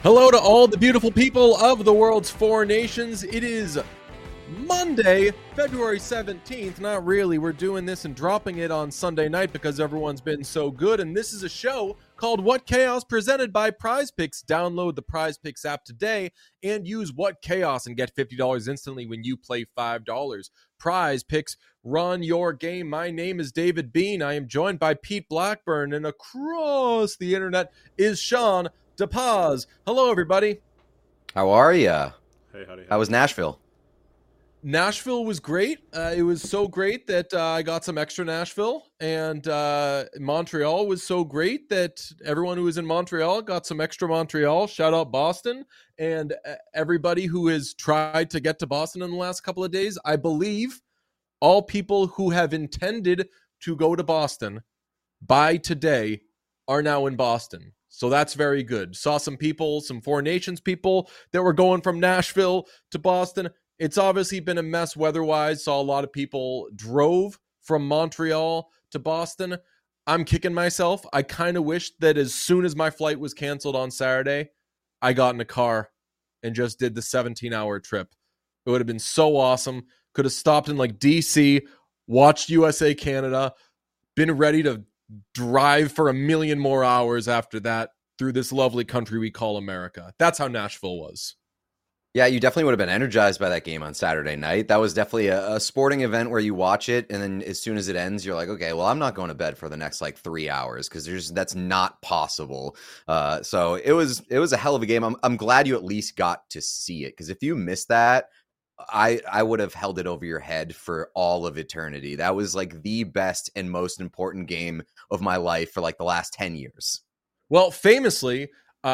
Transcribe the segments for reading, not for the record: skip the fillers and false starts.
Hello to all the beautiful people of the world's four nations. It is Monday, February 17th. Not really. We're doing this and dropping it on Sunday night because everyone's been so good. And this is a show called What Chaos, presented by Prize Picks. Download the Prize Picks app today and use What Chaos and get $50 instantly when you play $5. Prize Picks, run your game. My name is David Bean. I am joined by Pete Blackburn, and across the internet is Sean DePaz. Hello, everybody. How are ya? Hey, howdy. How was Nashville? Nashville was great. It was so great that I got some extra Nashville, and Montreal was so great that everyone who was in Montreal got some extra Montreal. Shout out Boston and everybody who has tried to get to Boston in the last couple of days. I believe all people who have intended to go to Boston by today are now in Boston. So that's very good. Saw some people, some Four Nations people that were going from Nashville to Boston. It's obviously been a mess weather-wise. Saw a lot of people drove from Montreal to Boston. I'm kicking myself. I kind of wish that as soon as my flight was canceled on Saturday, I got in a car and just did the 17-hour trip. It would have been so awesome. Could have stopped in like DC, watched USA Canada, been ready to drive for a million more hours after that through this lovely country we call America. That's how Nashville was. Yeah, you definitely would have been energized by that game on Saturday night. That was definitely a sporting event where you watch it, and then as soon as it ends, you're like, okay, well, I'm not going to bed for the next like 3 hours because that's not possible. So it was a hell of a game. I'm glad you at least got to see it, because if you missed that, I would have held it over your head for all of eternity. That was like the best and most important game of my life for like the last 10 years. Well, famously,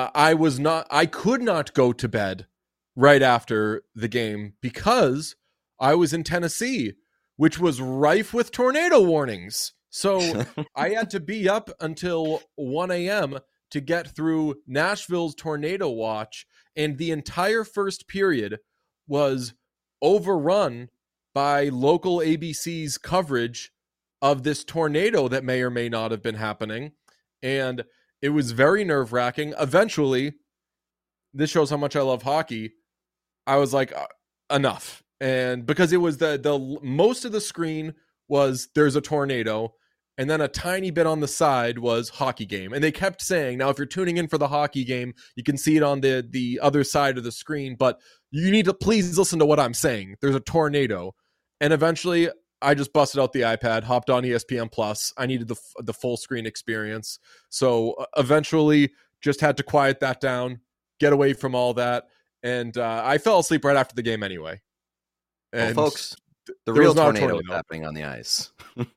I could not go to bed right after the game because I was in Tennessee, which was rife with tornado warnings. So I had to be up until 1 a.m. to get through Nashville's tornado watch. And the entire first period was overrun by local ABC's coverage of this tornado that may or may not have been happening. And it was very nerve-wracking. Eventually, this shows how much I love hockey, I was like, enough. And because it was the most of the screen was there's a tornado, and then a tiny bit on the side was hockey game. And they kept saying, now if you're tuning in for the hockey game, you can see it on the other side of the screen, but you need to please listen to what I'm saying. There's a tornado. And eventually I just busted out the iPad, hopped on ESPN Plus. I needed the full screen experience. So eventually just had to quiet that down, get away from all that. And I fell asleep right after the game anyway. And well, folks, the real tornado was happening on the ice.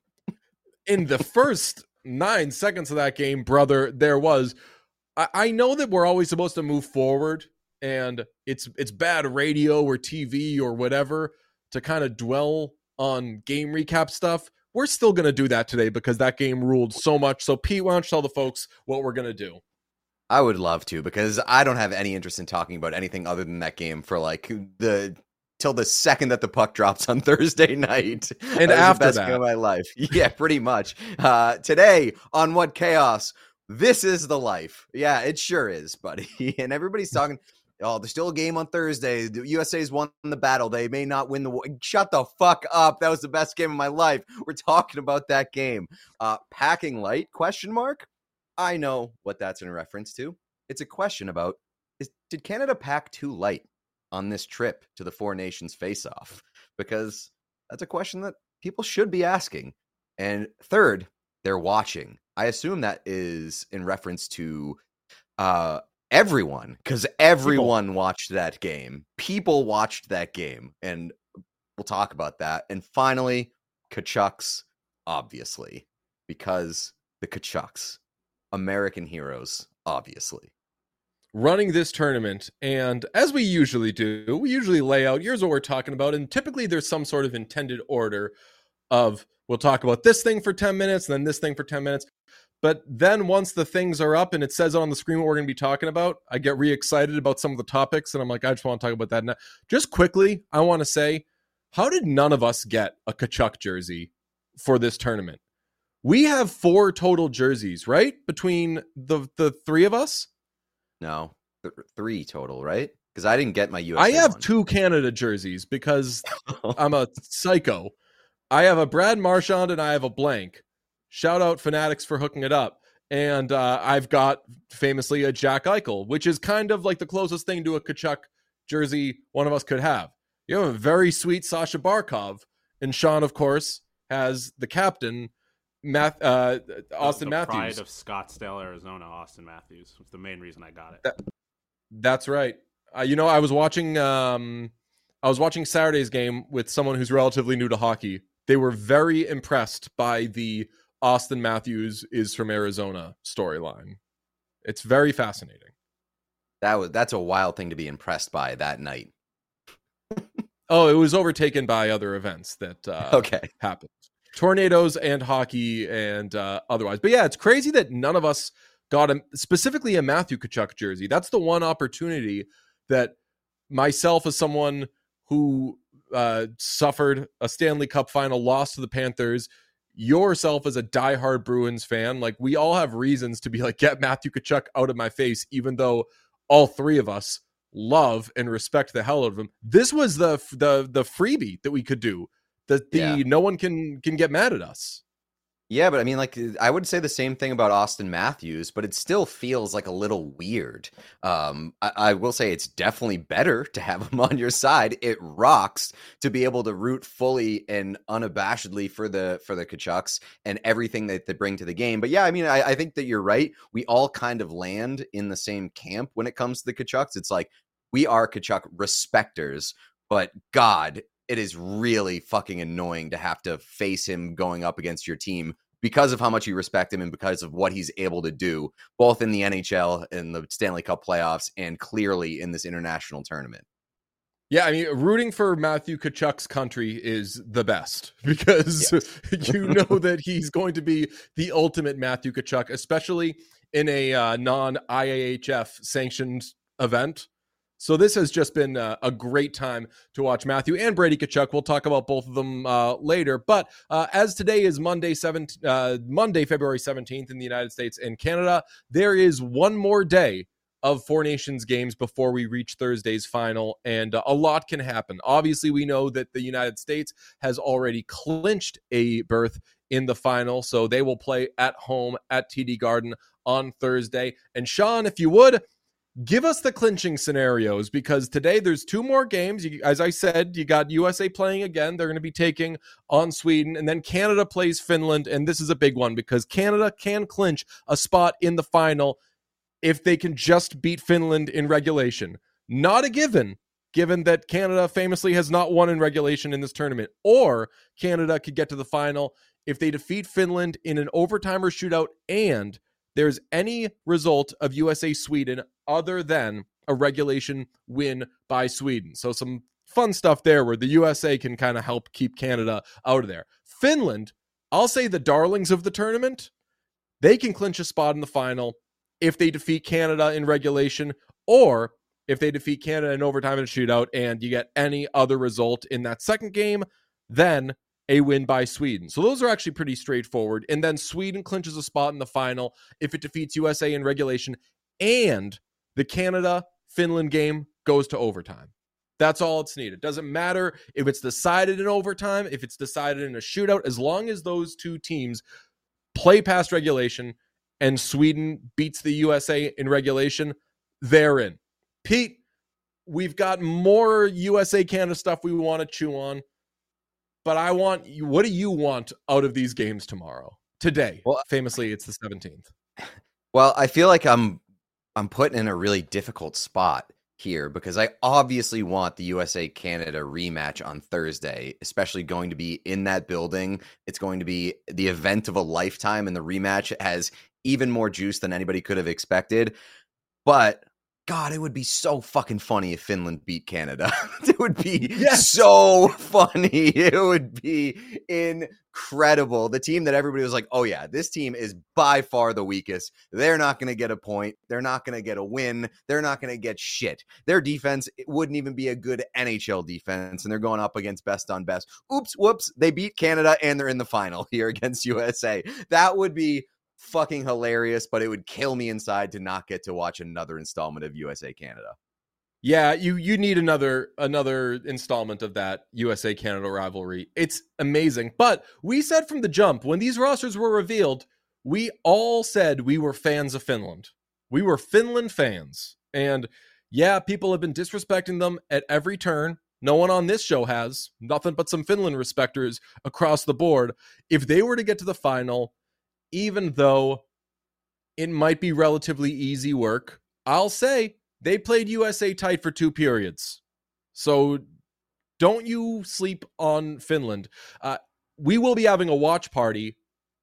In the first 9 seconds of that game, brother, there was... I know that we're always supposed to move forward, and it's bad radio or TV or whatever to kind of dwell on game recap stuff. We're still going to do that today because that game ruled so much. So, Pete, why don't you tell the folks what we're going to do? I would love to, because I don't have any interest in talking about anything other than that game for like till the second that the puck drops on Thursday night. And that after was the best that, game of my life. Yeah, pretty much. Today on What Chaos, this is the life. Yeah, it sure is, buddy. And everybody's talking, oh, there's still a game on Thursday. The USA's won the battle. They may not win the war. Shut the fuck up. That was the best game of my life. We're talking about that game. Packing light, question mark? I know what that's in reference to. It's a question about, did Canada pack too light on this trip to the Four Nations face-off? Because that's a question that people should be asking. And third, they're watching. I assume that is in reference to everyone, because everyone watched that game. People watched that game, and we'll talk about that. And finally, Tkachuks, obviously, because the Tkachuks, American heroes, obviously. Running this tournament, and as we usually do, we usually lay out, here's what we're talking about, and typically there's some sort of intended order of, we'll talk about this thing for 10 minutes, and then this thing for 10 minutes, but then once the things are up and it says on the screen what we're going to be talking about, I get re-excited about some of the topics, and I'm like, I just want to talk about that now. Just quickly, I want to say, how did none of us get a Tkachuk jersey for this tournament? We have 4 total jerseys, right? Between the three of us? No. Three total, right? Because I didn't get my I USA have one. 2 Canada jerseys because I'm a psycho. I have a Brad Marchand and I have a blank. Shout out Fanatics for hooking it up. And I've got famously a Jack Eichel, which is kind of like the closest thing to a Tkachuk jersey one of us could have. You have a very sweet Sasha Barkov, and Sean, of course, has the captain, Austin Matthews. Pride of Scottsdale, Arizona, Austin Matthews. Was the main reason I got it. That's right. I was watching Saturday's game with someone who's relatively new to hockey. They were very impressed by the Austin Matthews is from Arizona storyline. It's very fascinating. That's a wild thing to be impressed by that night. Oh, it was overtaken by other events that happened. Tornadoes and hockey and otherwise. But yeah, it's crazy that none of us got specifically a Matthew Tkachuk jersey. That's the one opportunity that myself, as someone who suffered a Stanley Cup final loss to the Panthers, yourself as a diehard Bruins fan, like, we all have reasons to be like, get Matthew Tkachuk out of my face, even though all three of us love and respect the hell out of him. This was the freebie that we could do. No one can get mad at us. Yeah, but I mean, like, I would say the same thing about Austin Matthews, but it still feels like a little weird. I will say it's definitely better to have him on your side. It rocks to be able to root fully and unabashedly for the Tkachuks and everything that they bring to the game. But yeah, I mean, I think that you're right. We all kind of land in the same camp when it comes to the Tkachuks. It's like, we are Tkachuk respecters, but God, it is really fucking annoying to have to face him going up against your team because of how much you respect him and because of what he's able to do, both in the NHL and the Stanley Cup playoffs and clearly in this international tournament. Yeah, I mean, rooting for Matthew Tkachuk's country is the best because you know that he's going to be the ultimate Matthew Tkachuk, especially in a non-IAHF sanctioned event. So this has just been a great time to watch Matthew and Brady Tkachuk. We'll talk about both of them later. But as today is Monday, February 17th in the United States and Canada, there is one more day of Four Nations games before we reach Thursday's final, and a lot can happen. Obviously, we know that the United States has already clinched a berth in the final, so they will play at home at TD Garden on Thursday. And Sean, if you would, give us the clinching scenarios, because today there's two more games. As I said, you got USA playing again. They're going to be taking on Sweden, and then Canada plays Finland, and this is a big one because Canada can clinch a spot in the final if they can just beat Finland in regulation. Not a given that Canada famously has not won in regulation in this tournament, or Canada could get to the final if they defeat Finland in an overtime or shootout and there's any result of USA-Sweden other than a regulation win by Sweden. So some fun stuff there where the USA can kind of help keep Canada out of there. Finland, I'll say the darlings of the tournament, they can clinch a spot in the final if they defeat Canada in regulation, or if they defeat Canada in overtime and shootout and you get any other result in that second game, then a win by Sweden. So those are actually pretty straightforward. And then Sweden clinches a spot in the final if it defeats USA in regulation and the Canada-Finland game goes to overtime. That's all it's needed. Doesn't matter if it's decided in overtime, if it's decided in a shootout, as long as those two teams play past regulation and Sweden beats the USA in regulation, they're in. Pete, we've got more USA-Canada stuff we want to chew on. But what do you want out of these games tomorrow? Today, famously, it's the 17th. Well, I feel like I'm put in a really difficult spot here because I obviously want the USA-Canada rematch on Thursday, especially going to be in that building. It's going to be the event of a lifetime, and the rematch has even more juice than anybody could have expected. But God, it would be so fucking funny if Finland beat Canada. It would be so funny. It would be incredible. The team that everybody was like, oh yeah, this team is by far the weakest. They're not going to get a point. They're not going to get a win. They're not going to get shit. Their defense wouldn't even be a good NHL defense, and they're going up against best on best. Oops, whoops. They beat Canada, and they're in the final here against USA. That would be fucking hilarious, but it would kill me inside to not get to watch another installment of USA Canada. Yeah, you need another installment of that USA Canada rivalry. It's amazing. But we said from the jump, when these rosters were revealed, we all said we were fans of Finland. We were Finland fans. And yeah, people have been disrespecting them at every turn. No one on this show has. Nothing but some Finland respecters across the board. If they were to get to the final, even though it might be relatively easy work, I'll say they played USA tight for 2 periods. So don't you sleep on Finland. We will be having a watch party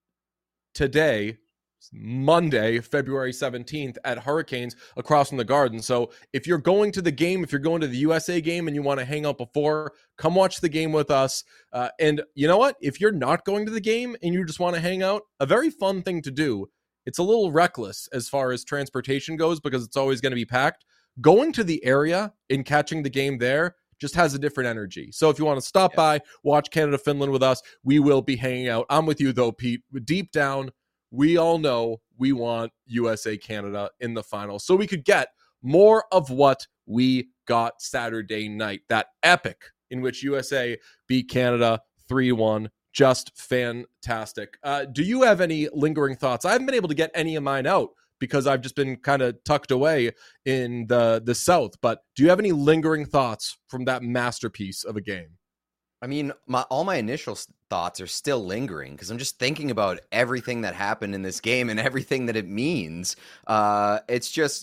today, Monday, February 17th at Hurricanes across from the Garden. So if you're going to the game, if you're going to the USA game and you want to hang out before, come watch the game with us. And you know what? If you're not going to the game and you just want to hang out, a very fun thing to do. It's a little reckless as far as transportation goes because it's always going to be packed. Going to the area and catching the game there just has a different energy. So if you want to stop by, watch Canada-Finland with us, we will be hanging out. I'm with you though, Pete. Deep down, we all know we want USA-Canada in the final so we could get more of what we got Saturday night. That epic in which USA beat Canada 3-1. Just fantastic. Do you have any lingering thoughts? I haven't been able to get any of mine out because I've just been kind of tucked away in the South. But do you have any lingering thoughts from that masterpiece of a game? I mean, all my initial thoughts are still lingering because I'm just thinking about everything that happened in this game and everything that it means. It's just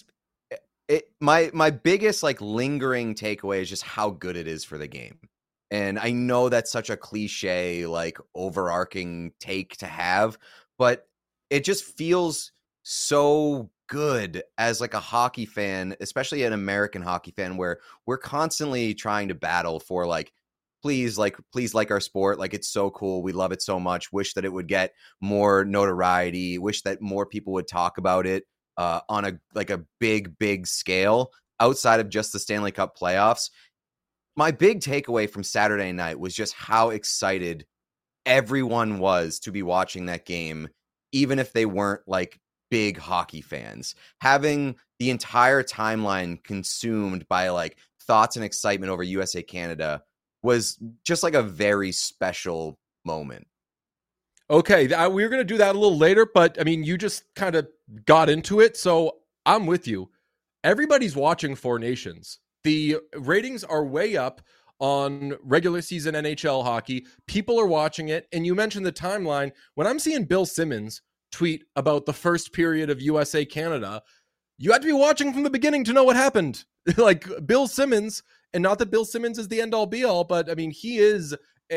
my biggest like lingering takeaway is just how good it is for the game. And I know that's such a cliche, like overarching take to have, but it just feels so good as like a hockey fan, especially an American hockey fan, where we're constantly trying to battle for like, please like our sport. Like, it's so cool. We love it so much. Wish that it would get more notoriety. Wish that more people would talk about it on a big scale outside of just the Stanley Cup playoffs. My big takeaway from Saturday night was just how excited everyone was to be watching that game, even if they weren't like big hockey fans. Having the entire timeline consumed by like thoughts and excitement over USA Canada was just like a very special moment. Okay, we were going to do that a little later, but I mean, you just kind of got into it, so I'm with you. Everybody's watching Four Nations. The ratings are way up on regular season NHL hockey. People are watching it. And you mentioned the timeline. When I'm seeing Bill Simmons tweet about the first period of USA Canada, you had to be watching from the beginning to know what happened. Like Bill Simmons, and not that Bill Simmons is the end all be all, but I mean, he is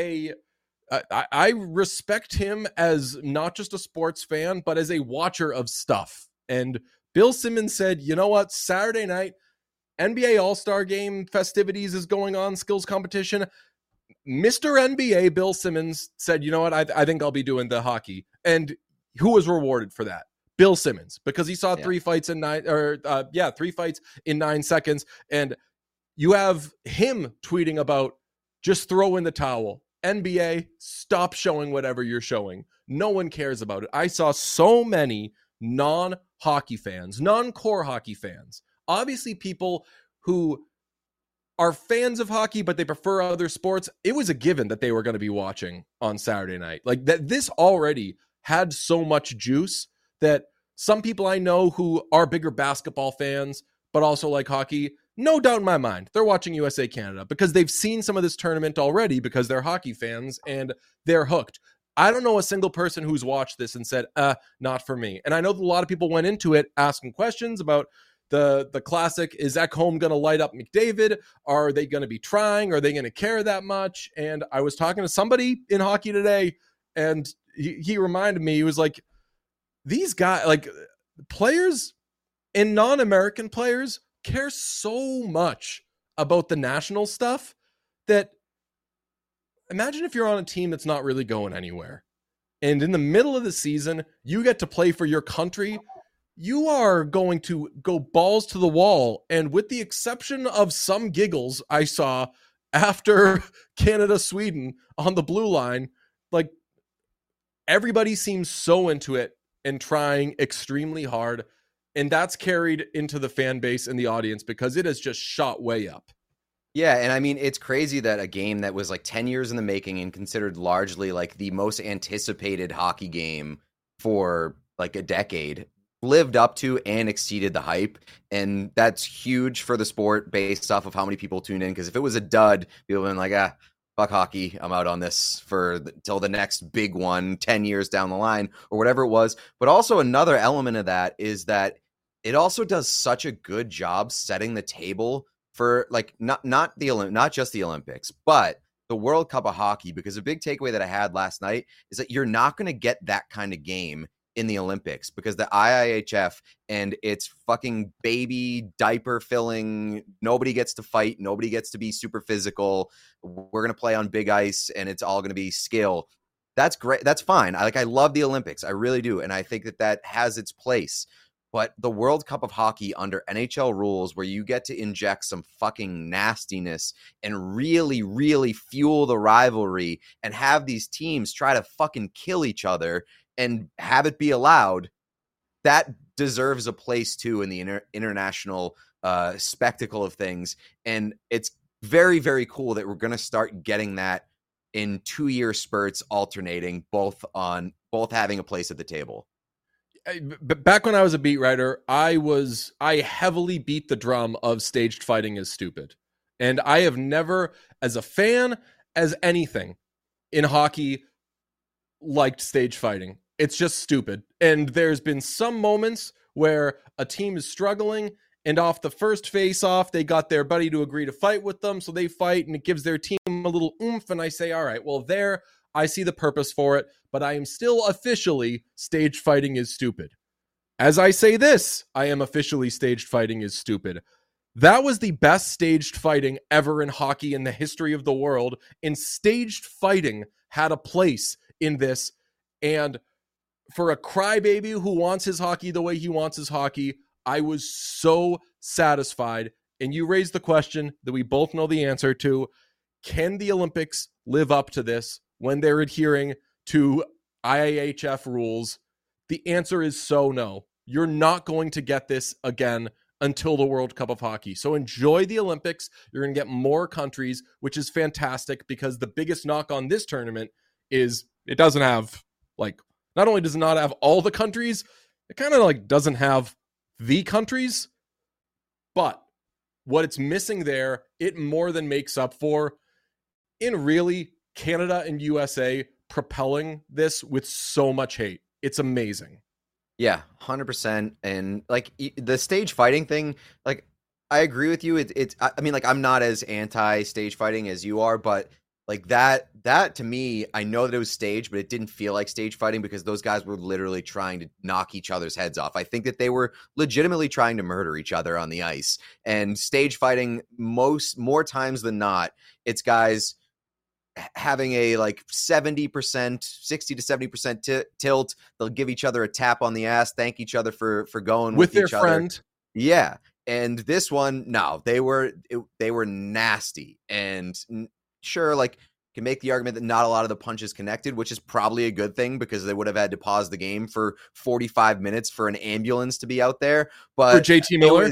I respect him as not just a sports fan, but as a watcher of stuff. And Bill Simmons said, you know what, Saturday night, NBA All-Star Game festivities is going on, skills competition. Mr. NBA Bill Simmons said, you know what, I think I'll be doing the hockey. And who was rewarded for that? Bill Simmons, because he saw 3 fights in 3 fights in 9 seconds. And you have him tweeting about just throw in the towel. NBA, stop showing whatever you're showing. No one cares about it. I saw so many non-hockey fans, non-core hockey fans, obviously people who are fans of hockey, but they prefer other sports. It was a given that they were going to be watching on Saturday night. Like that, this already had so much juice that some people I know who are bigger basketball fans, but also like hockey, no doubt in my mind, they're watching USA Canada because they've seen some of this tournament already because they're hockey fans and they're hooked. I don't know a single person who's watched this and said, not for me. And I know that a lot of people went into it asking questions about the classic, is Ekholm going to light up McDavid? Are they going to be trying? Are they going to care that much? And I was talking to somebody in hockey today, and he reminded me, he was like, these guys, like players and non-American players care so much about the national stuff that imagine if you're on a team that's not really going anywhere. And in the middle of the season, you get to play for your country. You are going to go balls to the wall. And with the exception of some giggles I saw after Canada-Sweden on the blue line, like everybody seems so into it. and trying extremely hard. And that's carried into the fan base and the audience because it has just shot way up. Yeah, and I mean, it's crazy that a game that was like 10 years in the making and considered largely like the most anticipated hockey game for like a decade lived up to and exceeded the hype. And that's huge for the sport based off of how many people tune in. Because if it was a dud, people would have been like, fuck hockey, I'm out on this till the next big one 10 years down the line or whatever it was. But also another element of that is that it also does such a good job setting the table for like not just the Olympics, but the World Cup of Hockey, because a big takeaway that I had last night is that you're not going to get that kind of game in the Olympics because the IIHF and its fucking baby diaper filling, nobody gets to fight, nobody gets to be super physical. We're going to play on big ice and it's all going to be skill. That's great. That's fine. I love the Olympics. I really do. And I think that has its place. But the World Cup of Hockey under NHL rules where you get to inject some fucking nastiness and really, really fuel the rivalry and have these teams try to fucking kill each other and have it be allowed, that deserves a place too in the international spectacle of things. And it's very, very cool that we're going to start getting that in 2-year spurts alternating, both having a place at the table. Back when I was a beat writer, I heavily beat the drum of staged fighting is stupid. And I have never, as a fan, as anything in hockey, liked stage fighting. It's just stupid. And there's been some moments where a team is struggling and off the first face-off, they got their buddy to agree to fight with them. So they fight and it gives their team a little oomph. And I say, all right, well, there I see the purpose for it, but I am still officially stage fighting is stupid. As I say this, I am officially staged fighting is stupid. That was the best staged fighting ever in hockey in the history of the world, and staged fighting had a place in this. And for a crybaby who wants his hockey the way he wants his hockey, I was so satisfied. And you raised the question that we both know the answer to. Can the Olympics live up to this when they're adhering to IIHF rules? The answer is so no. You're not going to get this again until the World Cup of Hockey. So enjoy the Olympics. You're going to get more countries, which is fantastic because the biggest knock on this tournament is it doesn't have, like, not only does it not have all the countries, it kind of like doesn't have the countries, but what it's missing there, it more than makes up for in really Canada and USA propelling this with so much hate. It's amazing. Yeah, 100%. And like the stage fighting thing, like I agree with you. I mean, like I'm not as anti stage fighting as you are, but like that to me, I know that it was staged, but it didn't feel like stage fighting because those guys were literally trying to knock each other's heads off. I think that they were legitimately trying to murder each other on the ice. And stage fighting, more times than not, it's guys having a like 70%, 60 to 70% tilt. They'll give each other a tap on the ass, thank each other for going with their each friend. Other. Yeah. And this one, no, they were nasty. And sure, like can make the argument that not a lot of the punches connected, which is probably a good thing because they would have had to pause the game for 45 minutes for an ambulance to be out there. But for JT Miller,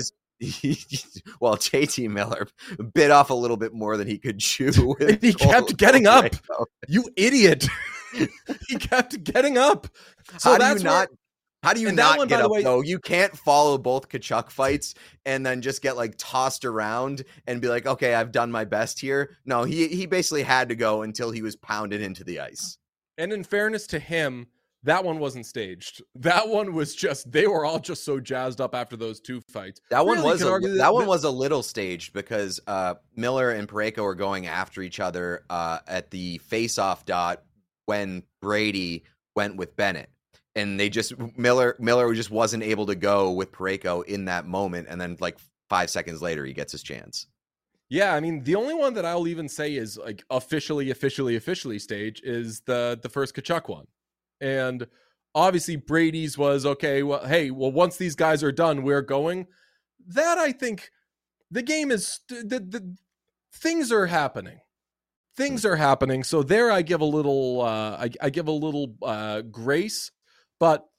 well, JT Miller bit off a little bit more than he could chew. He kept getting up. You idiot. He kept getting up. So how do you not get up, though? You can't follow both Tkachuk fights and then just get, like, tossed around and be like, okay, I've done my best here. No, he basically had to go until he was pounded into the ice. And in fairness to him, that one wasn't staged. That one was just, they were all just so jazzed up after those two fights. That one was a little staged because Miller and Parayko were going after each other at the face-off dot when Brady went with Bennett. And they just Miller just wasn't able to go with Parayko in that moment, and then like 5 seconds later he gets his chance. Yeah, I mean the only one that I'll even say is like officially staged is the first Tkachuk one, and obviously Brady's was okay. Well, hey, once these guys are done, we're going. That I think the game is the things are happening. Things are happening. So there, I give a little I give a little grace. But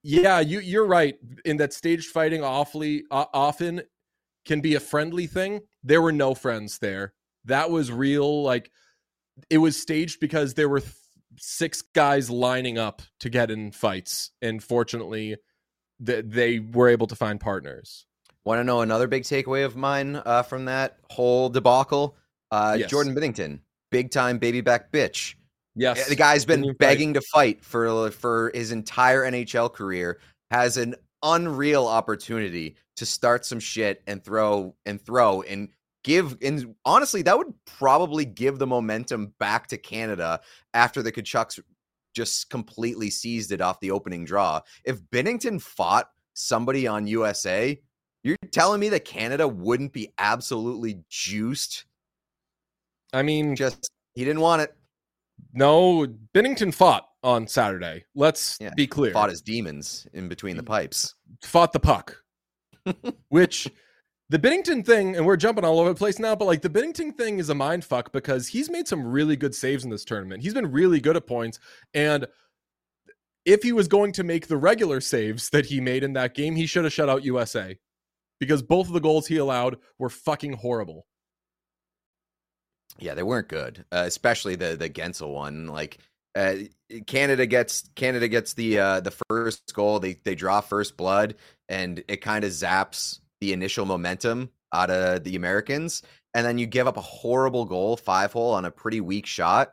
Yeah, you're right in that staged fighting often can be a friendly thing. There were no friends there. That was real. Like, it was staged because there were 6 guys lining up to get in fights, and fortunately, they were able to find partners. Want to know another big takeaway of mine from that whole debacle? Yes. Jordan Binnington, big time baby back bitch. Yes, The guy's been begging to fight for his entire NHL career, has an unreal opportunity to start some shit and throw and give. And honestly, that would probably give the momentum back to Canada after the Tkachuks just completely seized it off the opening draw. If Binnington fought somebody on USA, you're telling me that Canada wouldn't be absolutely juiced? I mean, just he didn't want it. No, Binnington fought on Saturday. Let's be clear. Fought his demons in between the pipes. Fought the puck. Which, the Binnington thing, and we're jumping all over the place now, but like the Binnington thing is a mind fuck because he's made some really good saves in this tournament. He's been really good at points. And if he was going to make the regular saves that he made in that game, he should have shut out USA. Because both of the goals he allowed were fucking horrible. Yeah, they weren't good, especially the Guentzel one. Like Canada gets the first goal. They draw first blood, and it kind of zaps the initial momentum out of the Americans. And then you give up a horrible goal, 5-hole on a pretty weak shot.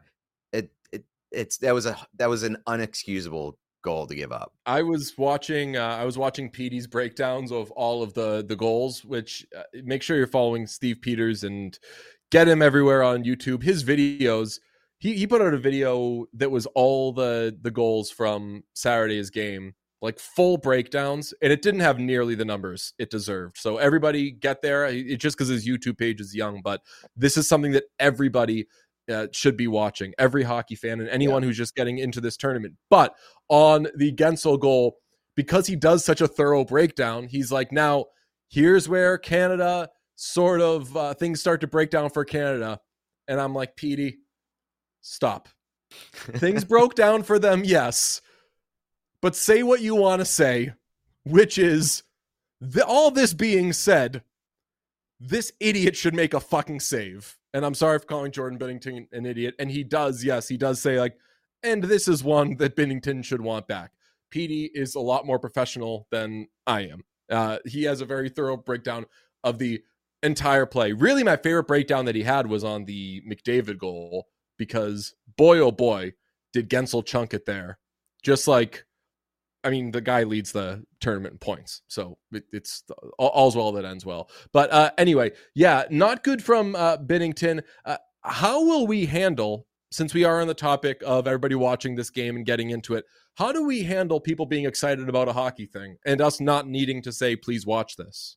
That was an unexcusable goal to give up. I was watching Petey's breakdowns of all of the goals, which make sure you're following Steve Peters and get him everywhere on YouTube. His videos, he put out a video that was all the goals from Saturday's game, like full breakdowns, and it didn't have nearly the numbers it deserved. So everybody get there. It's just because his YouTube page is young, but this is something that everybody should be watching, every hockey fan and anyone who's just getting into this tournament. But on the Guentzel goal, because he does such a thorough breakdown, he's like, now here's where Canada sort of things start to break down for Canada. And I'm like, Petey, stop. Things broke down for them, yes, but say what you want to say, which is, all this being said, this idiot should make a fucking save. And I'm sorry for calling Jordan Binnington an idiot. And he does say like, and this is one that Binnington should want back. Petey is a lot more professional than I am. He has a very thorough breakdown of the entire play. Really, my favorite breakdown that he had was on the McDavid goal, because boy, oh boy, did Guentzel chunk it there. Just like, I mean, the guy leads the tournament in points, so it's all's well that ends well. But anyway, yeah, not good from Binnington. How will we handle, since we are on the topic of everybody watching this game and getting into it, how do we handle people being excited about a hockey thing and us not needing to say, please watch this?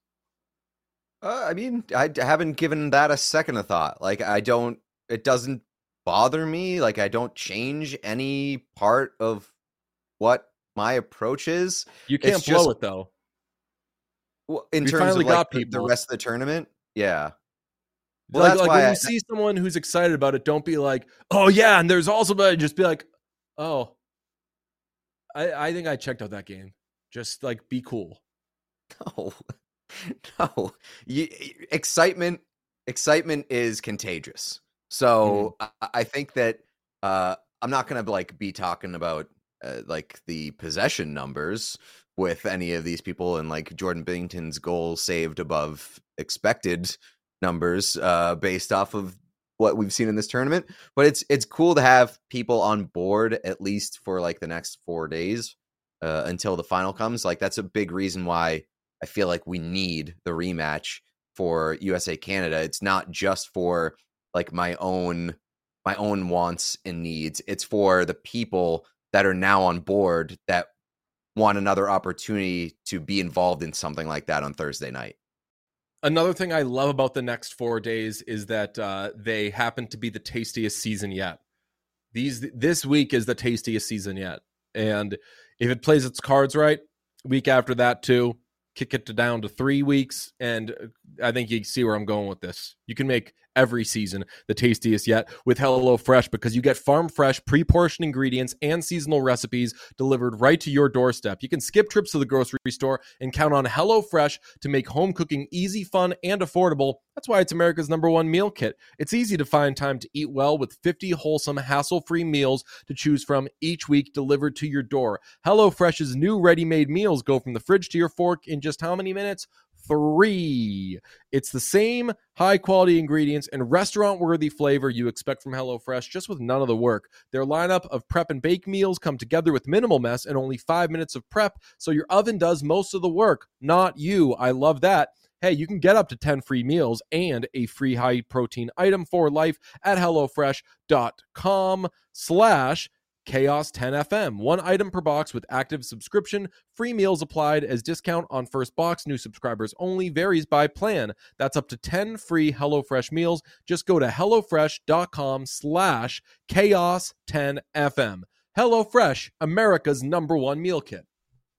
I mean, I haven't given that a second of thought. Like, it doesn't bother me. Like, I don't change any part of what my approach is. You can't blow it though. Well, in terms of like the rest of the tournament, yeah. Well, that's why when you see someone who's excited about it, don't be like, "Oh yeah," and there's also, but just be like, "Oh, I think I checked out that game." Just like be cool. No. Excitement is contagious. So I think that I'm not gonna like be talking about like the possession numbers with any of these people, and like Jordan Binnington's goal saved above expected numbers based off of what we've seen in this tournament. But it's cool to have people on board at least for like the next 4 days until the final comes. Like, that's a big reason why I feel like we need the rematch for USA Canada. It's not just for like my own wants and needs. It's for the people that are now on board that want another opportunity to be involved in something like that on Thursday night. Another thing I love about the next 4 days is that they happen to be the tastiest season yet. This week is the tastiest season yet. And if it plays its cards right, week after that too, kick it down to 3 weeks. And I think you see where I'm going with this. You can make every season the tastiest yet with HelloFresh, because you get farm fresh, pre-portioned ingredients and seasonal recipes delivered right to your doorstep. You can skip trips to the grocery store and count on HelloFresh to make home cooking easy, fun, and affordable. That's why it's America's #1 meal kit. It's easy to find time to eat well with 50 wholesome, hassle-free meals to choose from each week delivered to your door. HelloFresh's new ready-made meals go from the fridge to your fork in just how many minutes? 3. It's the same high-quality ingredients and restaurant-worthy flavor you expect from HelloFresh, just with none of the work. Their lineup of prep and bake meals come together with minimal mess and only 5 minutes of prep, so your oven does most of the work, not you. I love that. Hey, you can get up to 10 free meals and a free high-protein item for life at HelloFresh.com/Chaos10FM. 1 item per box with active subscription. Free meals applied as discount on first box. New subscribers only. Varies by plan. That's up to 10 free HelloFresh meals. Just go to HelloFresh.com/Chaos10FM. HelloFresh, America's #1 meal kit.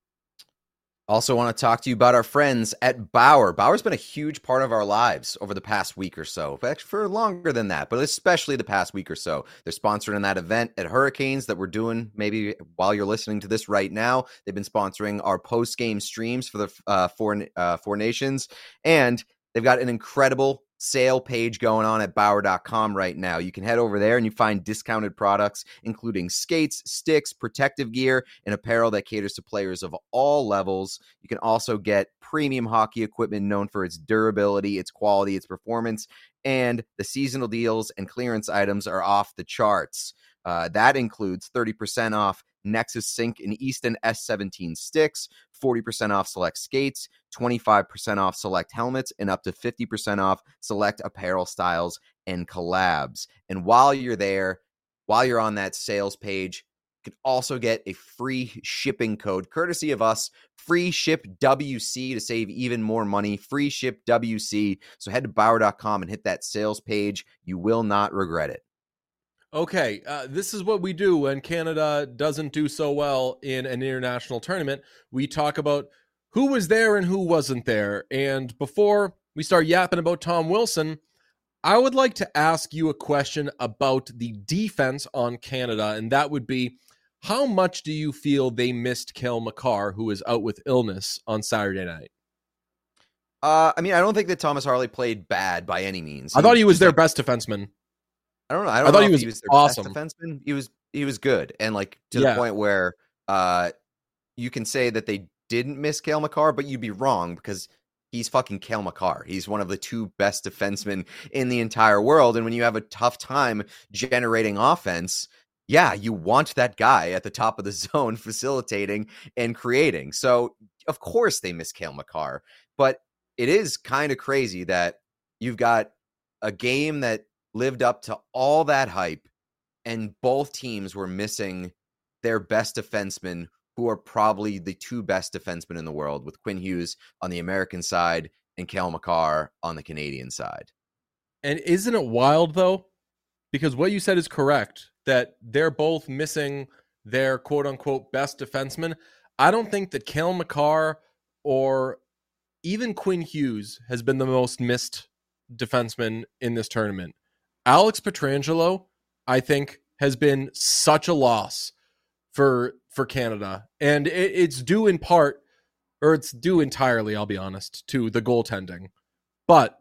Also want to talk to you about our friends at Bauer. Bauer's been a huge part of our lives over the past week or so. Actually, for longer than that, but especially the past week or so. They're sponsoring that event at Hurricanes that we're doing maybe while you're listening to this right now. They've been sponsoring our post-game streams for the Four Nations. And they've got an incredible sale page going on at Bauer.com right now. You can head over there and you find discounted products, including skates, sticks, protective gear, and apparel that caters to players of all levels. You can also get premium hockey equipment known for its durability, its quality, its performance, and the seasonal deals and clearance items are off the charts. That includes 30% off Nexus Sync and Easton S17 sticks, 40% off select skates, 25% off select helmets, and up to 50% off select apparel styles and collabs. And while you're there, while you're on that sales page, you can also get a free shipping code courtesy of us, free ship WC, to save even more money. Free ship WC. So head to Bauer.com and hit that sales page. You will not regret it. Okay, this is what we do when Canada doesn't do so well in an international tournament. We talk about who was there and who wasn't there. And before we start yapping about Tom Wilson, I would like to ask you a question about the defense on Canada, and that would be, how much do you feel they missed Cale Makar, who was out with illness on Saturday night? I don't think that Thomas Harley played bad by any means. I thought he was their best defenseman. I don't know. I thought he was their awesome. best defenseman. He was good, and to the point where you can say that they didn't miss Cale Makar, but you'd be wrong because he's fucking Cale Makar. He's one of the 2 best defensemen in the entire world, and when you have a tough time generating offense, yeah, you want that guy at the top of the zone facilitating and creating. So of course they miss Cale Makar, but it is kind of crazy that you've got a game that lived up to all that hype, and both teams were missing their best defensemen, who are probably the 2 best defensemen in the world, with Quinn Hughes on the American side and Cale Makar on the Canadian side. And isn't it wild, though? Because what you said is correct, that they're both missing their quote-unquote best defenseman. I don't think that Cale Makar or even Quinn Hughes has been the most missed defenseman in this tournament. Alex Pietrangelo, I think, has been such a loss for Canada. And it's due in part, or it's due entirely, I'll be honest, to the goaltending. But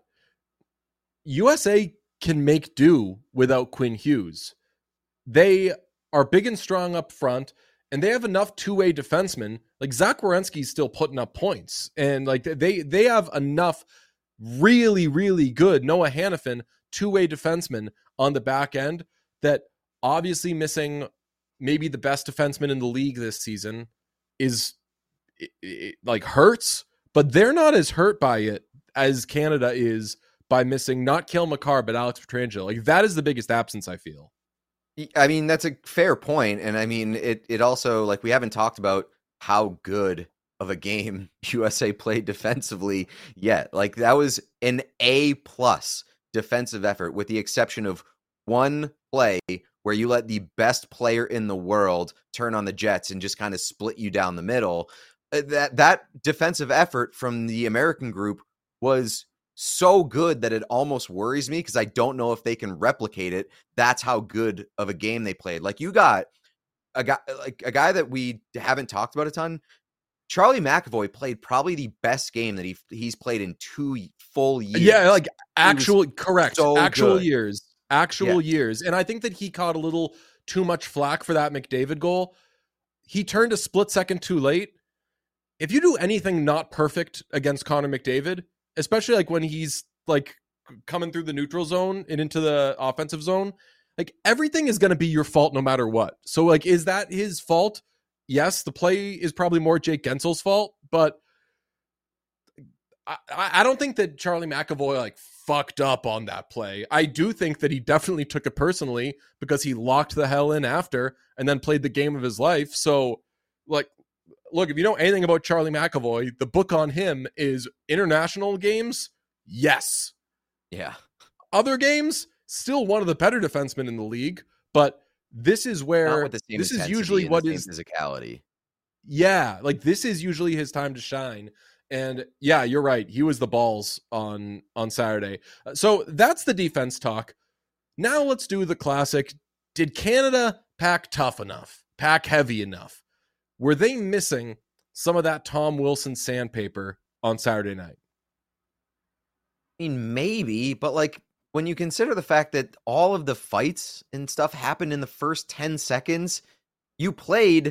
USA can make do without Quinn Hughes. They are big and strong up front, and they have enough two-way defensemen. Like, Zach Werenski's still putting up points. And like they have enough really, really good Noah Hannafin two-way defensemen on the back end that obviously missing maybe the best defenseman in the league this season is like hurts, but they're not as hurt by it as Canada is by missing not Cale Makar, but Alex Pietrangelo. Like, that is the biggest absence, I feel. I mean, that's a fair point. And I mean, it also, like, we haven't talked about how good of a game USA played defensively yet. Like, that was an A+ defensive effort, with the exception of one play where you let the best player in the world turn on the Jets and just kind of split you down the middle. That defensive effort from the American group was so good that it almost worries me because I don't know if they can replicate it. That's how good of a game they played. Like you got a guy that we haven't talked about a ton. Charlie McAvoy played probably the best game that he's played in 2 full years. Yeah, like actual good. years. And I think that he caught a little too much flack for that McDavid goal. He turned a split second too late. If you do anything not perfect against Connor McDavid, especially like when he's like coming through the neutral zone and into the offensive zone, like everything is going to be your fault no matter what. So like, is that his fault? Yes, the play is probably more Jake Gensel's fault, but I don't think that Charlie McAvoy like fucked up on that play. I do think that he definitely took it personally because he locked the hell in after and then played the game of his life. So like, look, if you know anything about Charlie McAvoy, the book on him is international games. Yes. Yeah. Other games, still one of the better defensemen in the league, but this is where this is usually what is physicality. Yeah, like this is usually his time to shine. And yeah, you're right. He was the balls on Saturday. So that's the defense talk. Now let's do the classic. Did Canada pack tough enough? Pack heavy enough? Were they missing some of that Tom Wilson sandpaper on Saturday night? I mean, maybe, but like when you consider the fact that all of the fights and stuff happened in the first 10 seconds, you played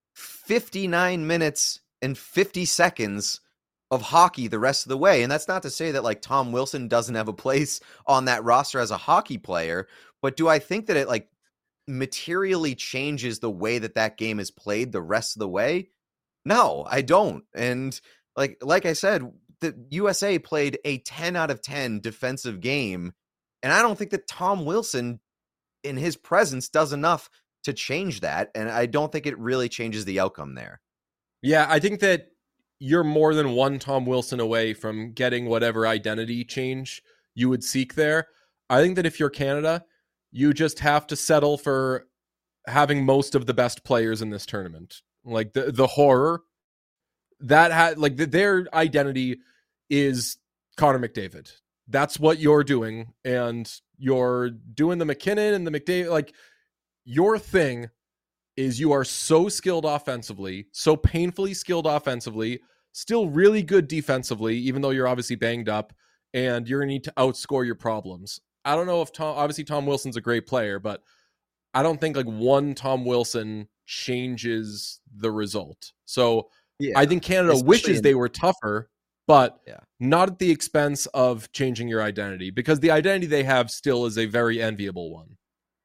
59 minutes and 50 seconds of hockey the rest of the way. And that's not to say that like Tom Wilson doesn't have a place on that roster as a hockey player, but do I think that it like materially changes the way that game is played the rest of the way? No, I don't. And like I said, the USA played a 10 out of 10 defensive game, and I don't think that Tom Wilson in his presence does enough to change that, and I don't think it really changes the outcome there. Yeah, I think that you're more than one Tom Wilson away from getting whatever identity change you would seek there. I think that if you're Canada, you just have to settle for having most of the best players in this tournament. Like the horror that had like their identity is Connor McDavid. That's what you're doing, and you're doing the McKinnon and the McDavid. Like your thing is you are so skilled offensively, so painfully skilled offensively, still really good defensively, even though you're obviously banged up, and you're going to need to outscore your problems. I don't know if Tom Wilson's a great player, but I don't think like one Tom Wilson changes the result. So yeah, I think Canada wishes they were tougher, but not at the expense of changing your identity, because the identity they have still is a very enviable one.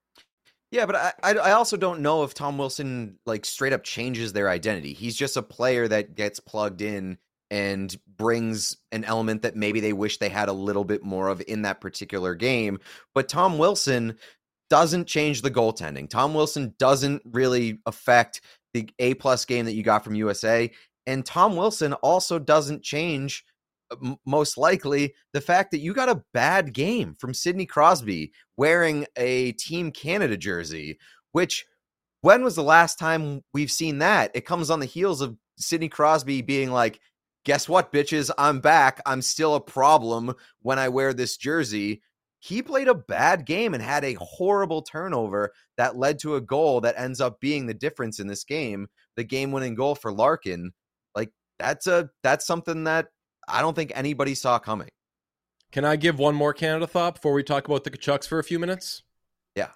Yeah, but I also don't know if Tom Wilson like straight up changes their identity. He's just a player that gets plugged in and brings an element that maybe they wish they had a little bit more of in that particular game. But Tom Wilson doesn't change the goaltending. Tom Wilson doesn't really affect the A+ game that you got from USA. And Tom Wilson also doesn't change, most likely, the fact that you got a bad game from Sidney Crosby wearing a Team Canada jersey, which, when was the last time we've seen that? It comes on the heels of Sidney Crosby being like, guess what, bitches? I'm back. I'm still a problem when I wear this jersey. He played a bad game and had a horrible turnover that led to a goal that ends up being the difference in this game, the game-winning goal for Larkin. Like, that's something that I don't think anybody saw coming. Can I give one more Canada thought before we talk about the Tkachuks for a few minutes? Yeah.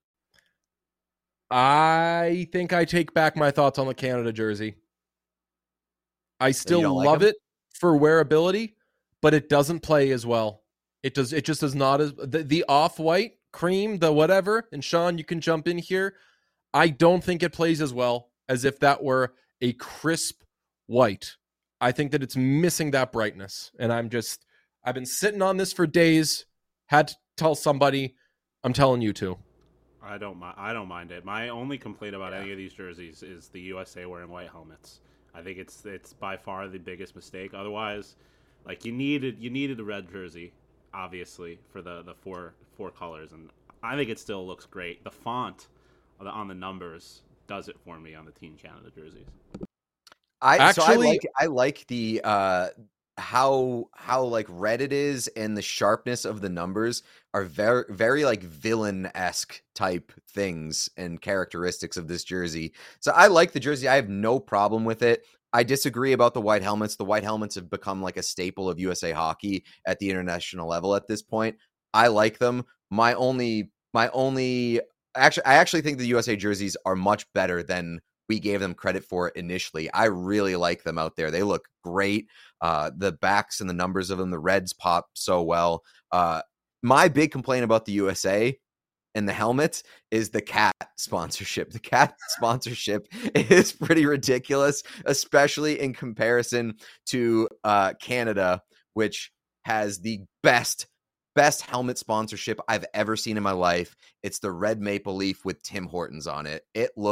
I think I take back my thoughts on the Canada jersey. I still love it for wearability, but it doesn't play as well. It just is not as the off-white cream, the whatever. And Sean, you can jump in here. I don't think it plays as well as if that were a crisp white. I think that it's missing that brightness. And I've been sitting on this for days. Had to tell somebody. I'm telling you to. I don't mind it. My only complaint about any of these jerseys is the USA wearing white helmets. I think it's by far the biggest mistake. Otherwise, like you needed a red jersey, obviously, for the four colors, and I think it still looks great. The font on the numbers does it for me on the Team Canada jerseys. I like the how like red it is and the sharpness of the numbers are very, very like villain-esque type things and characteristics of this jersey. So I like the jersey. I have no problem with it. I disagree about the white helmets. The white helmets have become like a staple of USA hockey at the international level at this point. I like them. I actually think the USA jerseys are much better than we gave them credit for initially. I really like them out there. They look great. The backs and the numbers of them, the reds pop so well. My big complaint about the USA and the helmets is the cat sponsorship. The cat sponsorship is pretty ridiculous, especially in comparison to Canada, which has the best helmet sponsorship I've ever seen in my life. It's the red maple leaf with Tim Hortons on it.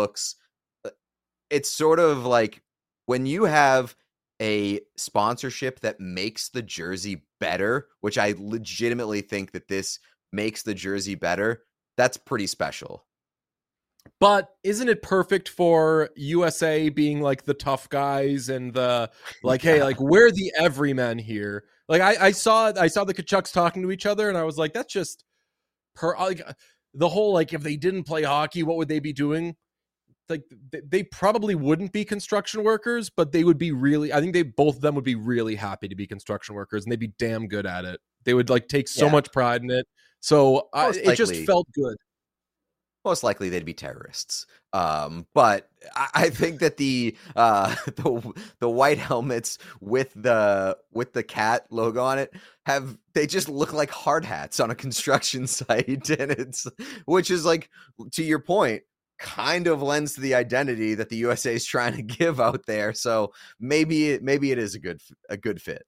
It's sort of like when you have a sponsorship that makes the jersey better, which I legitimately think that this makes the jersey better. That's pretty special. But isn't it perfect for USA being like the tough guys and the like, hey, like we're the everymen here. Like I saw the Kachucks talking to each other and I was like, that's just like the whole, like, if they didn't play hockey, what would they be doing? Like they probably wouldn't be construction workers, but they would be I think both of them would be really happy to be construction workers and they'd be damn good at it. They would like take so much pride in it. So it just felt good. Most likely they'd be terrorists. But I think that the white helmets with the cat logo on it they just look like hard hats on a construction site, and which is like, to your point, kind of lends to the identity that the USA is trying to give out there. So maybe it is a good fit.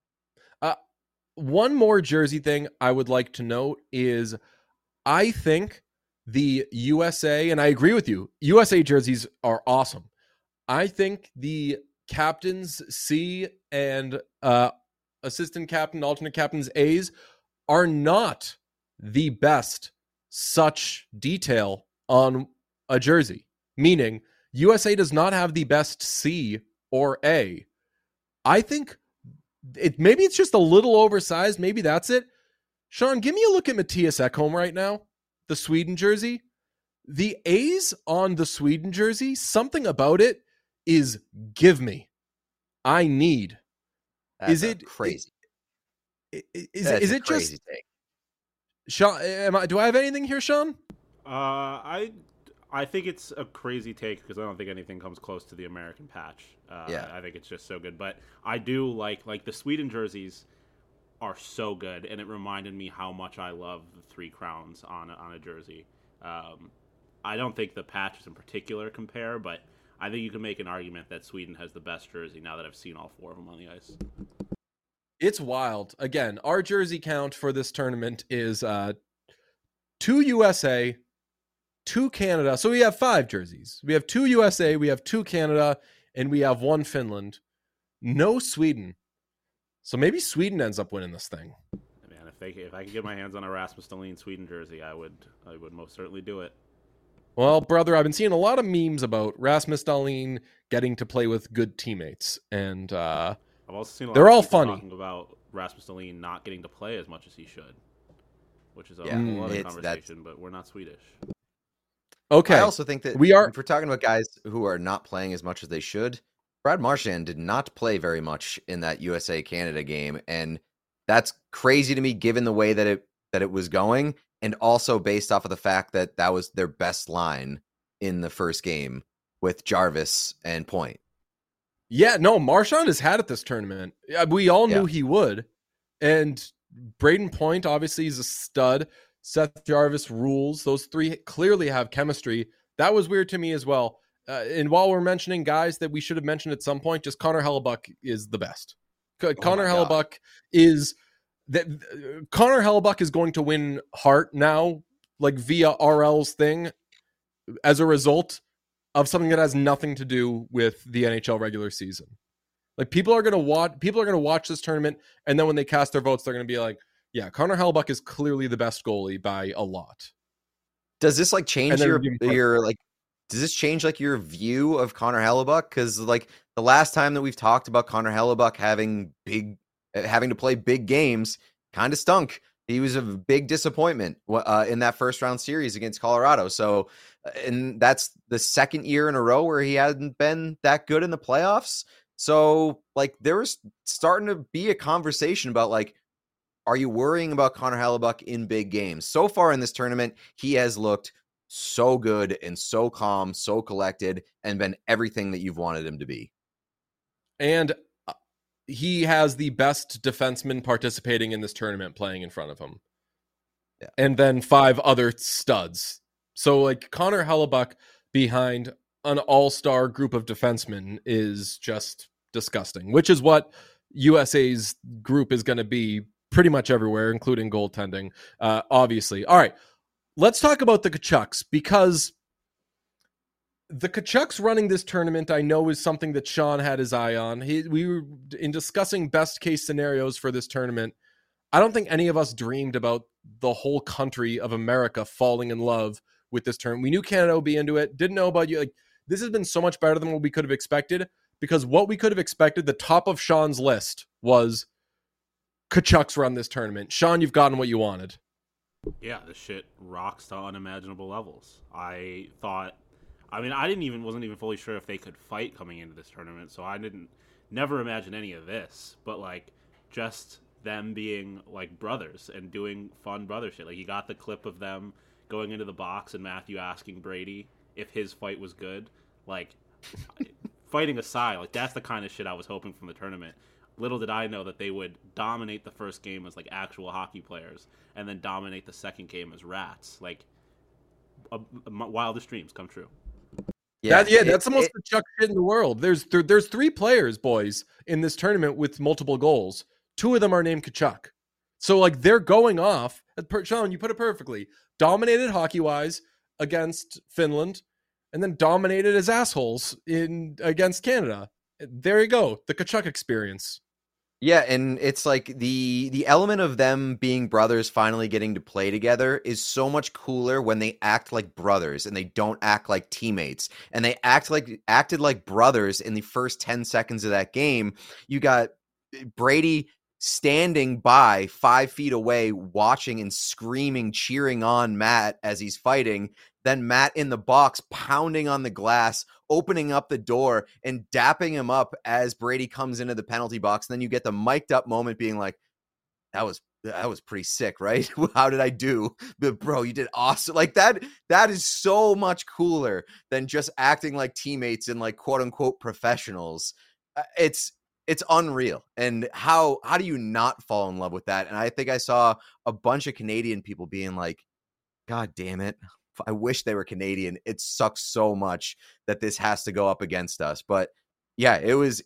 One more jersey thing I would like to note is I think the USA, and I agree with you, USA jerseys are awesome. I think the captains C and assistant captain, alternate captains A's are not the best such detail on a jersey. Meaning USA does not have the best C or A. I think maybe it's just a little oversized. Maybe that's it. Sean, give me a look at Mattias Ekholm right now. The Sweden jersey. The A's on the Sweden jersey, something about it is give me. I need. That's is it crazy? Is it crazy just thing. Sean? Do I have anything here, Sean? I think it's a crazy take because I don't think anything comes close to the American patch. I think it's just so good. But I do like the Sweden jerseys are so good, and it reminded me how much I love the Three Crowns on a jersey. I don't think the patches in particular compare, but I think you can make an argument that Sweden has the best jersey now that I've seen all four of them on the ice. It's wild. Again, our jersey count for this tournament is 2 USA, 2 Canada. So we have 5 jerseys. We have 2 USA, we have 2 Canada, and we have 1 Finland. No Sweden. So maybe Sweden ends up winning this thing. Man, if I could get my hands on a Rasmus Dahlin Sweden jersey, I would most certainly do it. Well, brother, I've been seeing a lot of memes about Rasmus Dahlin getting to play with good teammates, and I've also seen a lot they're of all people funny talking about Rasmus Dahlin not getting to play as much as he should, which is a whole other conversation. But we're not Swedish. Okay. I also think that if we're talking about guys who are not playing as much as they should, Brad Marchand did not play very much in that USA-Canada game, and that's crazy to me given the way that it was going, and also based off of the fact that that was their best line in the first game with Jarvis and Point. Yeah, no, Marchand has had it this tournament. We all knew he would. And Braden Point, obviously, is a stud. Seth Jarvis rules. Those 3 clearly have chemistry. That was weird to me as well. And while we're mentioning guys that we should have mentioned at some point, just Connor Hellebuyck is the best. Connor Hellebuyck is going to win Hart now, like via RL's thing, as a result of something that has nothing to do with the NHL regular season. Like people are going to watch this tournament, and then when they cast their votes, they're going to be like, yeah, Connor Hellebuyck is clearly the best goalie by a lot. Does this like change your like? Does this change like your view of Connor Hellebuyck? Because like the last time that we've talked about Connor Hellebuyck having big having to play big games kind of stunk. He was a big disappointment in that first round series against Colorado. So, and that's the second year in a row where he hadn't been that good in the playoffs. So, like, there was starting to be a conversation about, like, are you worrying about Connor Hellebuyck in big games? So far in this tournament, he has looked so good and so calm, so collected, and been everything that you've wanted him to be. And he has the best defenseman participating in this tournament playing in front of him. Yeah. And then 5 other studs. So, like, Connor Hellebuyck behind an all-star group of defensemen is just disgusting, which is what USA's group is going to be pretty much everywhere, including goaltending, obviously. All right, let's talk about the Tkachuks, because the Tkachuks running this tournament, I know, is something that Sean had his eye on. We were in discussing best case scenarios for this tournament. I don't think any of us dreamed about the whole country of America falling in love with this tournament. We knew Canada would be into it. Didn't know about you. Like, this has been so much better than what we could have expected, because what we could have expected, the top of Sean's list was Tkachuks run this tournament. Sean, you've gotten what you wanted. Yeah, this shit rocks to unimaginable levels. I wasn't even fully sure if they could fight coming into this tournament, so I never imagine any of this. But, like, just them being, like, brothers and doing fun brother shit. Like, you got the clip of them going into the box and Matthew asking Brady if his fight was good. Like, fighting aside, like, that's the kind of shit I was hoping from the tournament. Little did I know that they would dominate the first game as, like, actual hockey players and then dominate the second game as rats. Like, wildest dreams come true. That's the most Tkachuk shit in the world. There's 3 players, boys, in this tournament with multiple goals. 2 of them are named Tkachuk. So, like, they're going off. Sean, you put it perfectly. Dominated hockey-wise against Finland, and then dominated as assholes against Canada. There you go. The Tkachuk experience. Yeah, and it's like the element of them being brothers finally getting to play together is so much cooler when they act like brothers and they don't act like teammates. And they acted like brothers in the first 10 seconds of that game. You got Brady standing by 5 feet away, watching and screaming, cheering on Matt as he's fighting. Then Matt in the box, pounding on the glass, opening up the door and dapping him up as Brady comes into the penalty box. And then you get the mic'd up moment being like, that was pretty sick, right? How did I do? But bro, you did awesome. Like, that is so much cooler than just acting like teammates and, like, quote unquote professionals. It's unreal. And how do you not fall in love with that? And I think I saw a bunch of Canadian people being like, God damn it, I wish they were Canadian. It sucks so much that this has to go up against us. But yeah,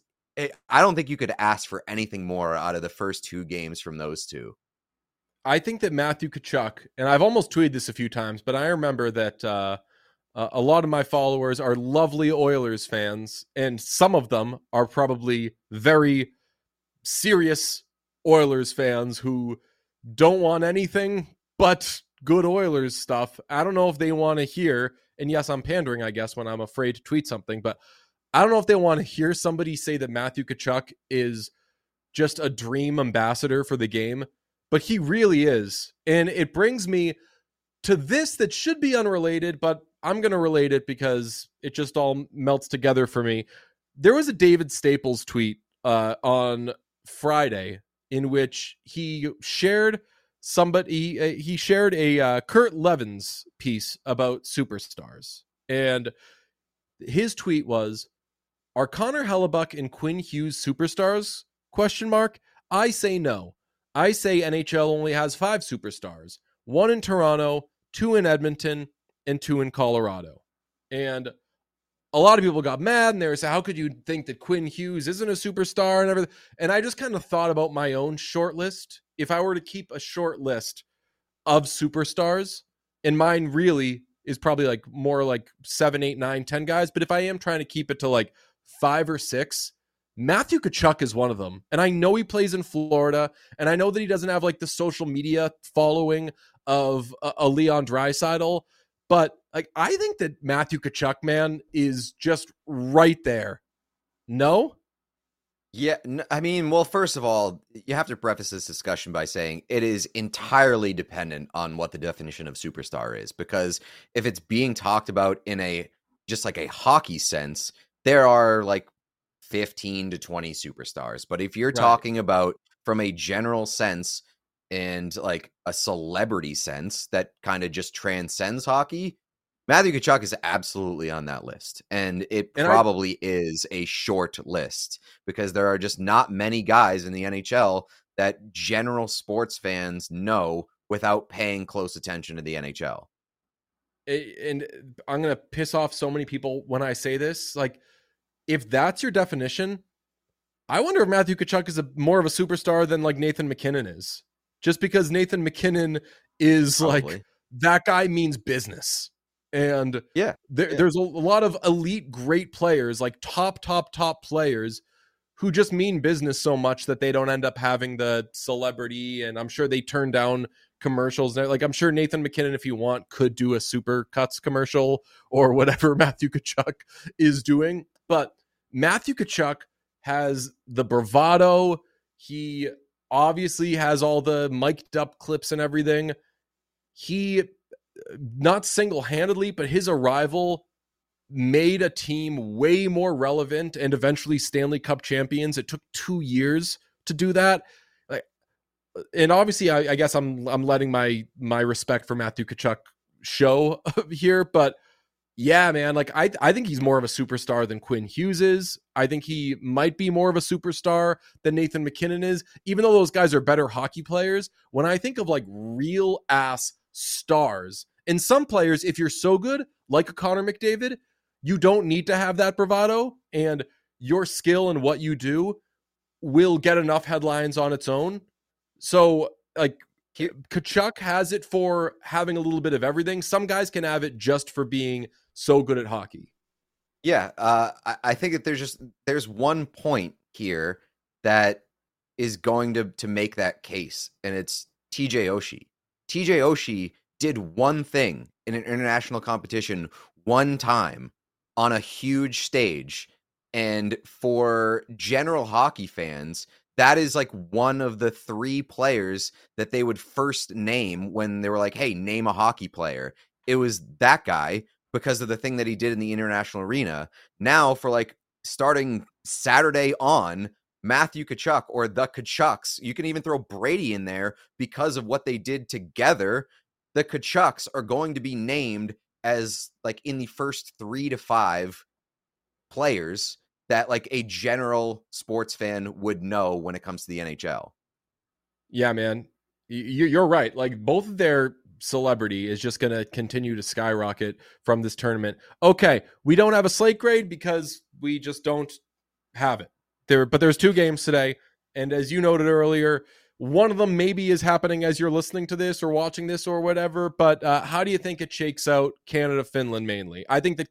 I don't think you could ask for anything more out of the first 2 games from those 2. I think that Matthew Tkachuk, and I've almost tweeted this a few times, but I remember that a lot of my followers are lovely Oilers fans, and some of them are probably very serious Oilers fans who don't want anything but good Oilers stuff. I don't know if they want to hear, and yes, I'm pandering, I guess, when I'm afraid to tweet something, but I don't know if they want to hear somebody say that Matthew Tkachuk is just a dream ambassador for the game, but he really is. And it brings me to this that should be unrelated, but I'm going to relate it because it just all melts together for me. There was a David Staples tweet on Friday in which he shared he shared a Kurt Levins piece about superstars. And his tweet was, "Are Connor Hellebuyck and Quinn Hughes superstars? ? I say no. I say NHL only has 5 superstars. 1 in Toronto, 2 in Edmonton, and 2 in Colorado." And a lot of people got mad and they were saying, how could you think that Quinn Hughes isn't a superstar and everything? And I just kind of thought about my own short list. If I were to keep a short list of superstars, and mine really is probably like more like 7, 8, 9, 10 guys. But if I am trying to keep it to like 5 or 6, Matthew Tkachuk is one of them. And I know he plays in Florida, and I know that he doesn't have like the social media following of a Leon Draisaitl, but like, I think that Matthew Tkachuk, man, is just right there. No? Yeah, I mean, well, first of all, you have to preface this discussion by saying it is entirely dependent on what the definition of superstar is. Because if it's being talked about in a just like a hockey sense, there are like 15 to 20 superstars. But if you're Right. talking about from a general sense and like a celebrity sense that kind of just transcends hockey, Matthew Tkachuk is absolutely on that list. And it And probably is a short list because there are just not many guys in the NHL that general sports fans know without paying close attention to the NHL. and I'm going to piss off so many people when I say this. Like, if that's your definition, I wonder if Matthew Tkachuk is more of a superstar than like Nathan MacKinnon is. Just because Nathan MacKinnon is Probably. like, that guy means business. And Yeah. there's a lot of elite, great players, like top players who just mean business so much that they don't end up having the celebrity. And I'm sure they turn down commercials. Like, I'm sure Nathan MacKinnon, if you want, could do a Super Cuts commercial or whatever Matthew Tkachuk is doing. But Matthew Tkachuk has the bravado. He obviously has all the mic'd up clips and everything. He, not single-handedly, but his arrival made a team way more relevant and eventually Stanley Cup champions. It took 2 years to do that. Like, and obviously, I guess I'm letting my respect for Matthew Tkachuk show here, but yeah, man, like I think he's more of a superstar than Quinn Hughes is. I think he might be more of a superstar than Nathan MacKinnon is, even though those guys are better hockey players. When I think of like real ass stars, and some players, if you're so good, like a Connor McDavid, you don't need to have that bravado, and your skill and what you do will get enough headlines on its own. So, like, Tkachuk has it for having a little bit of everything. Some guys can have it just for being so good at hockey. Yeah, I think that there's one point here that is going to make that case, and it's TJ Oshie. TJ Oshie did one thing in an international competition one time on a huge stage, and for general hockey fans, that is like one of the 3 players that they would first name when they were like, hey, name a hockey player. It was that guy because of the thing that he did in the international arena. Now, for like starting Saturday on, Matthew Tkachuk or the Tkachuks, you can even throw Brady in there because of what they did together. The Tkachuks are going to be named as like in the first 3 to 5 players that like a general sports fan would know when it comes to the NHL. Yeah, man, you're right. Like, both of their celebrity is just going to continue to skyrocket from this tournament. Okay, we don't have a slate grade because we just don't have it there. But there's 2 games today, and as you noted earlier, one of them maybe is happening as you're listening to this or watching this or whatever. But how do you think it shakes out? Canada, Finland, mainly. I think that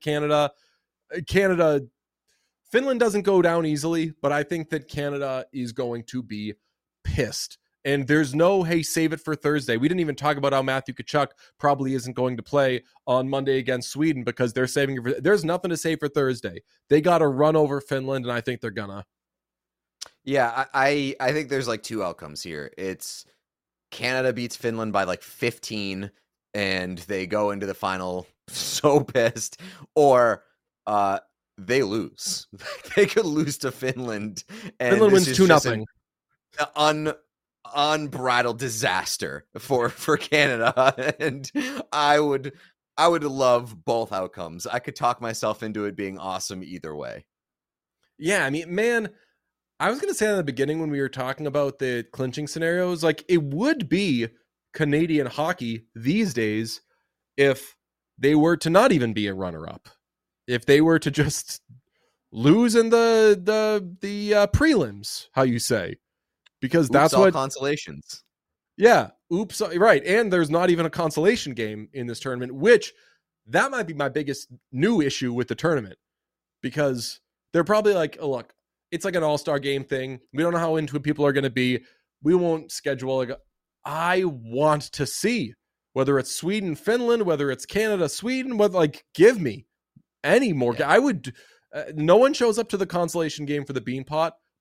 Finland doesn't go down easily, but I think that Canada is going to be pissed. And there's no, hey, save it for Thursday. We didn't even talk about how Matthew Tkachuk probably isn't going to play on Monday against Sweden because they're saving it for, there's nothing to save for Thursday. They got to run over Finland, and I think they're gonna. Yeah, I think there's like 2 outcomes here. It's Canada beats Finland by like 15 and they go into the final so pissed, or they lose. They could lose to Finland, and Finland wins 2-0. Unbridled disaster for Canada. And I would love both outcomes. I could talk myself into it being awesome either way. Yeah, I mean, man, I was gonna say in the beginning when we were talking about the clinching scenarios, like, it would be Canadian hockey these days if they were to not even be a runner-up. If they were to just lose in the prelims, how you say, because that's what consolations. Yeah, oops, right. And there's not even a consolation game in this tournament, which that might be my biggest new issue with the tournament, because they're probably like, oh, look, it's like an all-star game thing. We don't know how into it people are going to be. We won't schedule. Like, I want to see whether it's Sweden, Finland, whether it's Canada, Sweden, whether, like, give me any more. Yeah. I would. No one shows up to the consolation game for the Beanpot,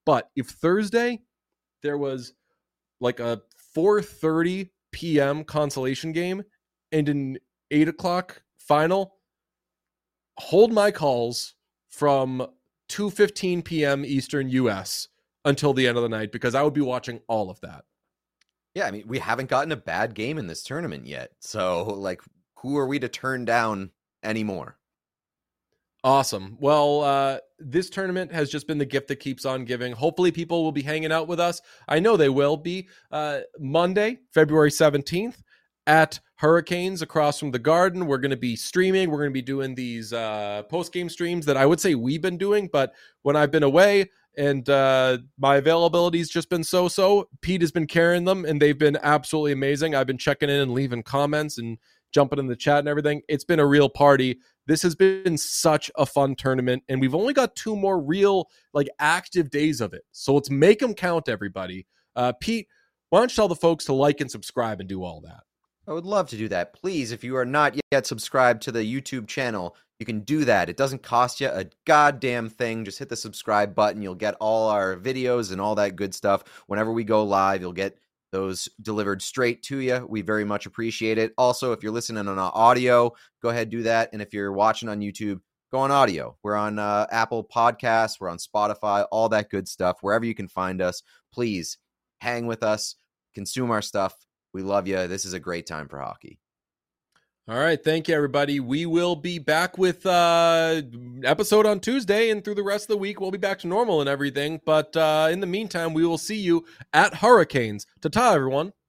But if Thursday there was like a 4:30 p.m. consolation game and an 8 o'clock final, hold my calls from 2:15 p.m. Eastern US until the end of the night, because I would be watching all of that. Yeah, I mean, we haven't gotten a bad game in this tournament yet. So, like, who are we to turn down anymore? Awesome. Well, this tournament has just been the gift that keeps on giving. Hopefully people will be hanging out with us. I know they will be. Monday, February 17th at Hurricanes across from the Garden. We're going to be streaming. We're going to be doing these post-game streams that I would say we've been doing, but when I've been away and my availability's just been so-so, Pete has been carrying them, and they've been absolutely amazing. I've been checking in and leaving comments and jumping in the chat and everything. It's been a real party. This has been such a fun tournament, and we've only got 2 more real, like, active days of it. So let's make them count, everybody. Pete, why don't you tell the folks to like and subscribe and do all that? I would love to do that. Please, if you are not yet subscribed to the YouTube channel, you can do that. It doesn't cost you a goddamn thing. Just hit the subscribe button. You'll get all our videos and all that good stuff. Whenever we go live, you'll get those delivered straight to you. We very much appreciate it. Also, if you're listening on audio, go ahead, do that. And if you're watching on YouTube, go on audio. We're on Apple Podcasts. We're on Spotify, all that good stuff. Wherever you can find us, please hang with us, consume our stuff. We love you. This is a great time for hockey. All right. Thank you, everybody. We will be back with episode on Tuesday, and through the rest of the week, we'll be back to normal and everything. But in the meantime, we will see you at Hurricanes. Ta-ta, everyone.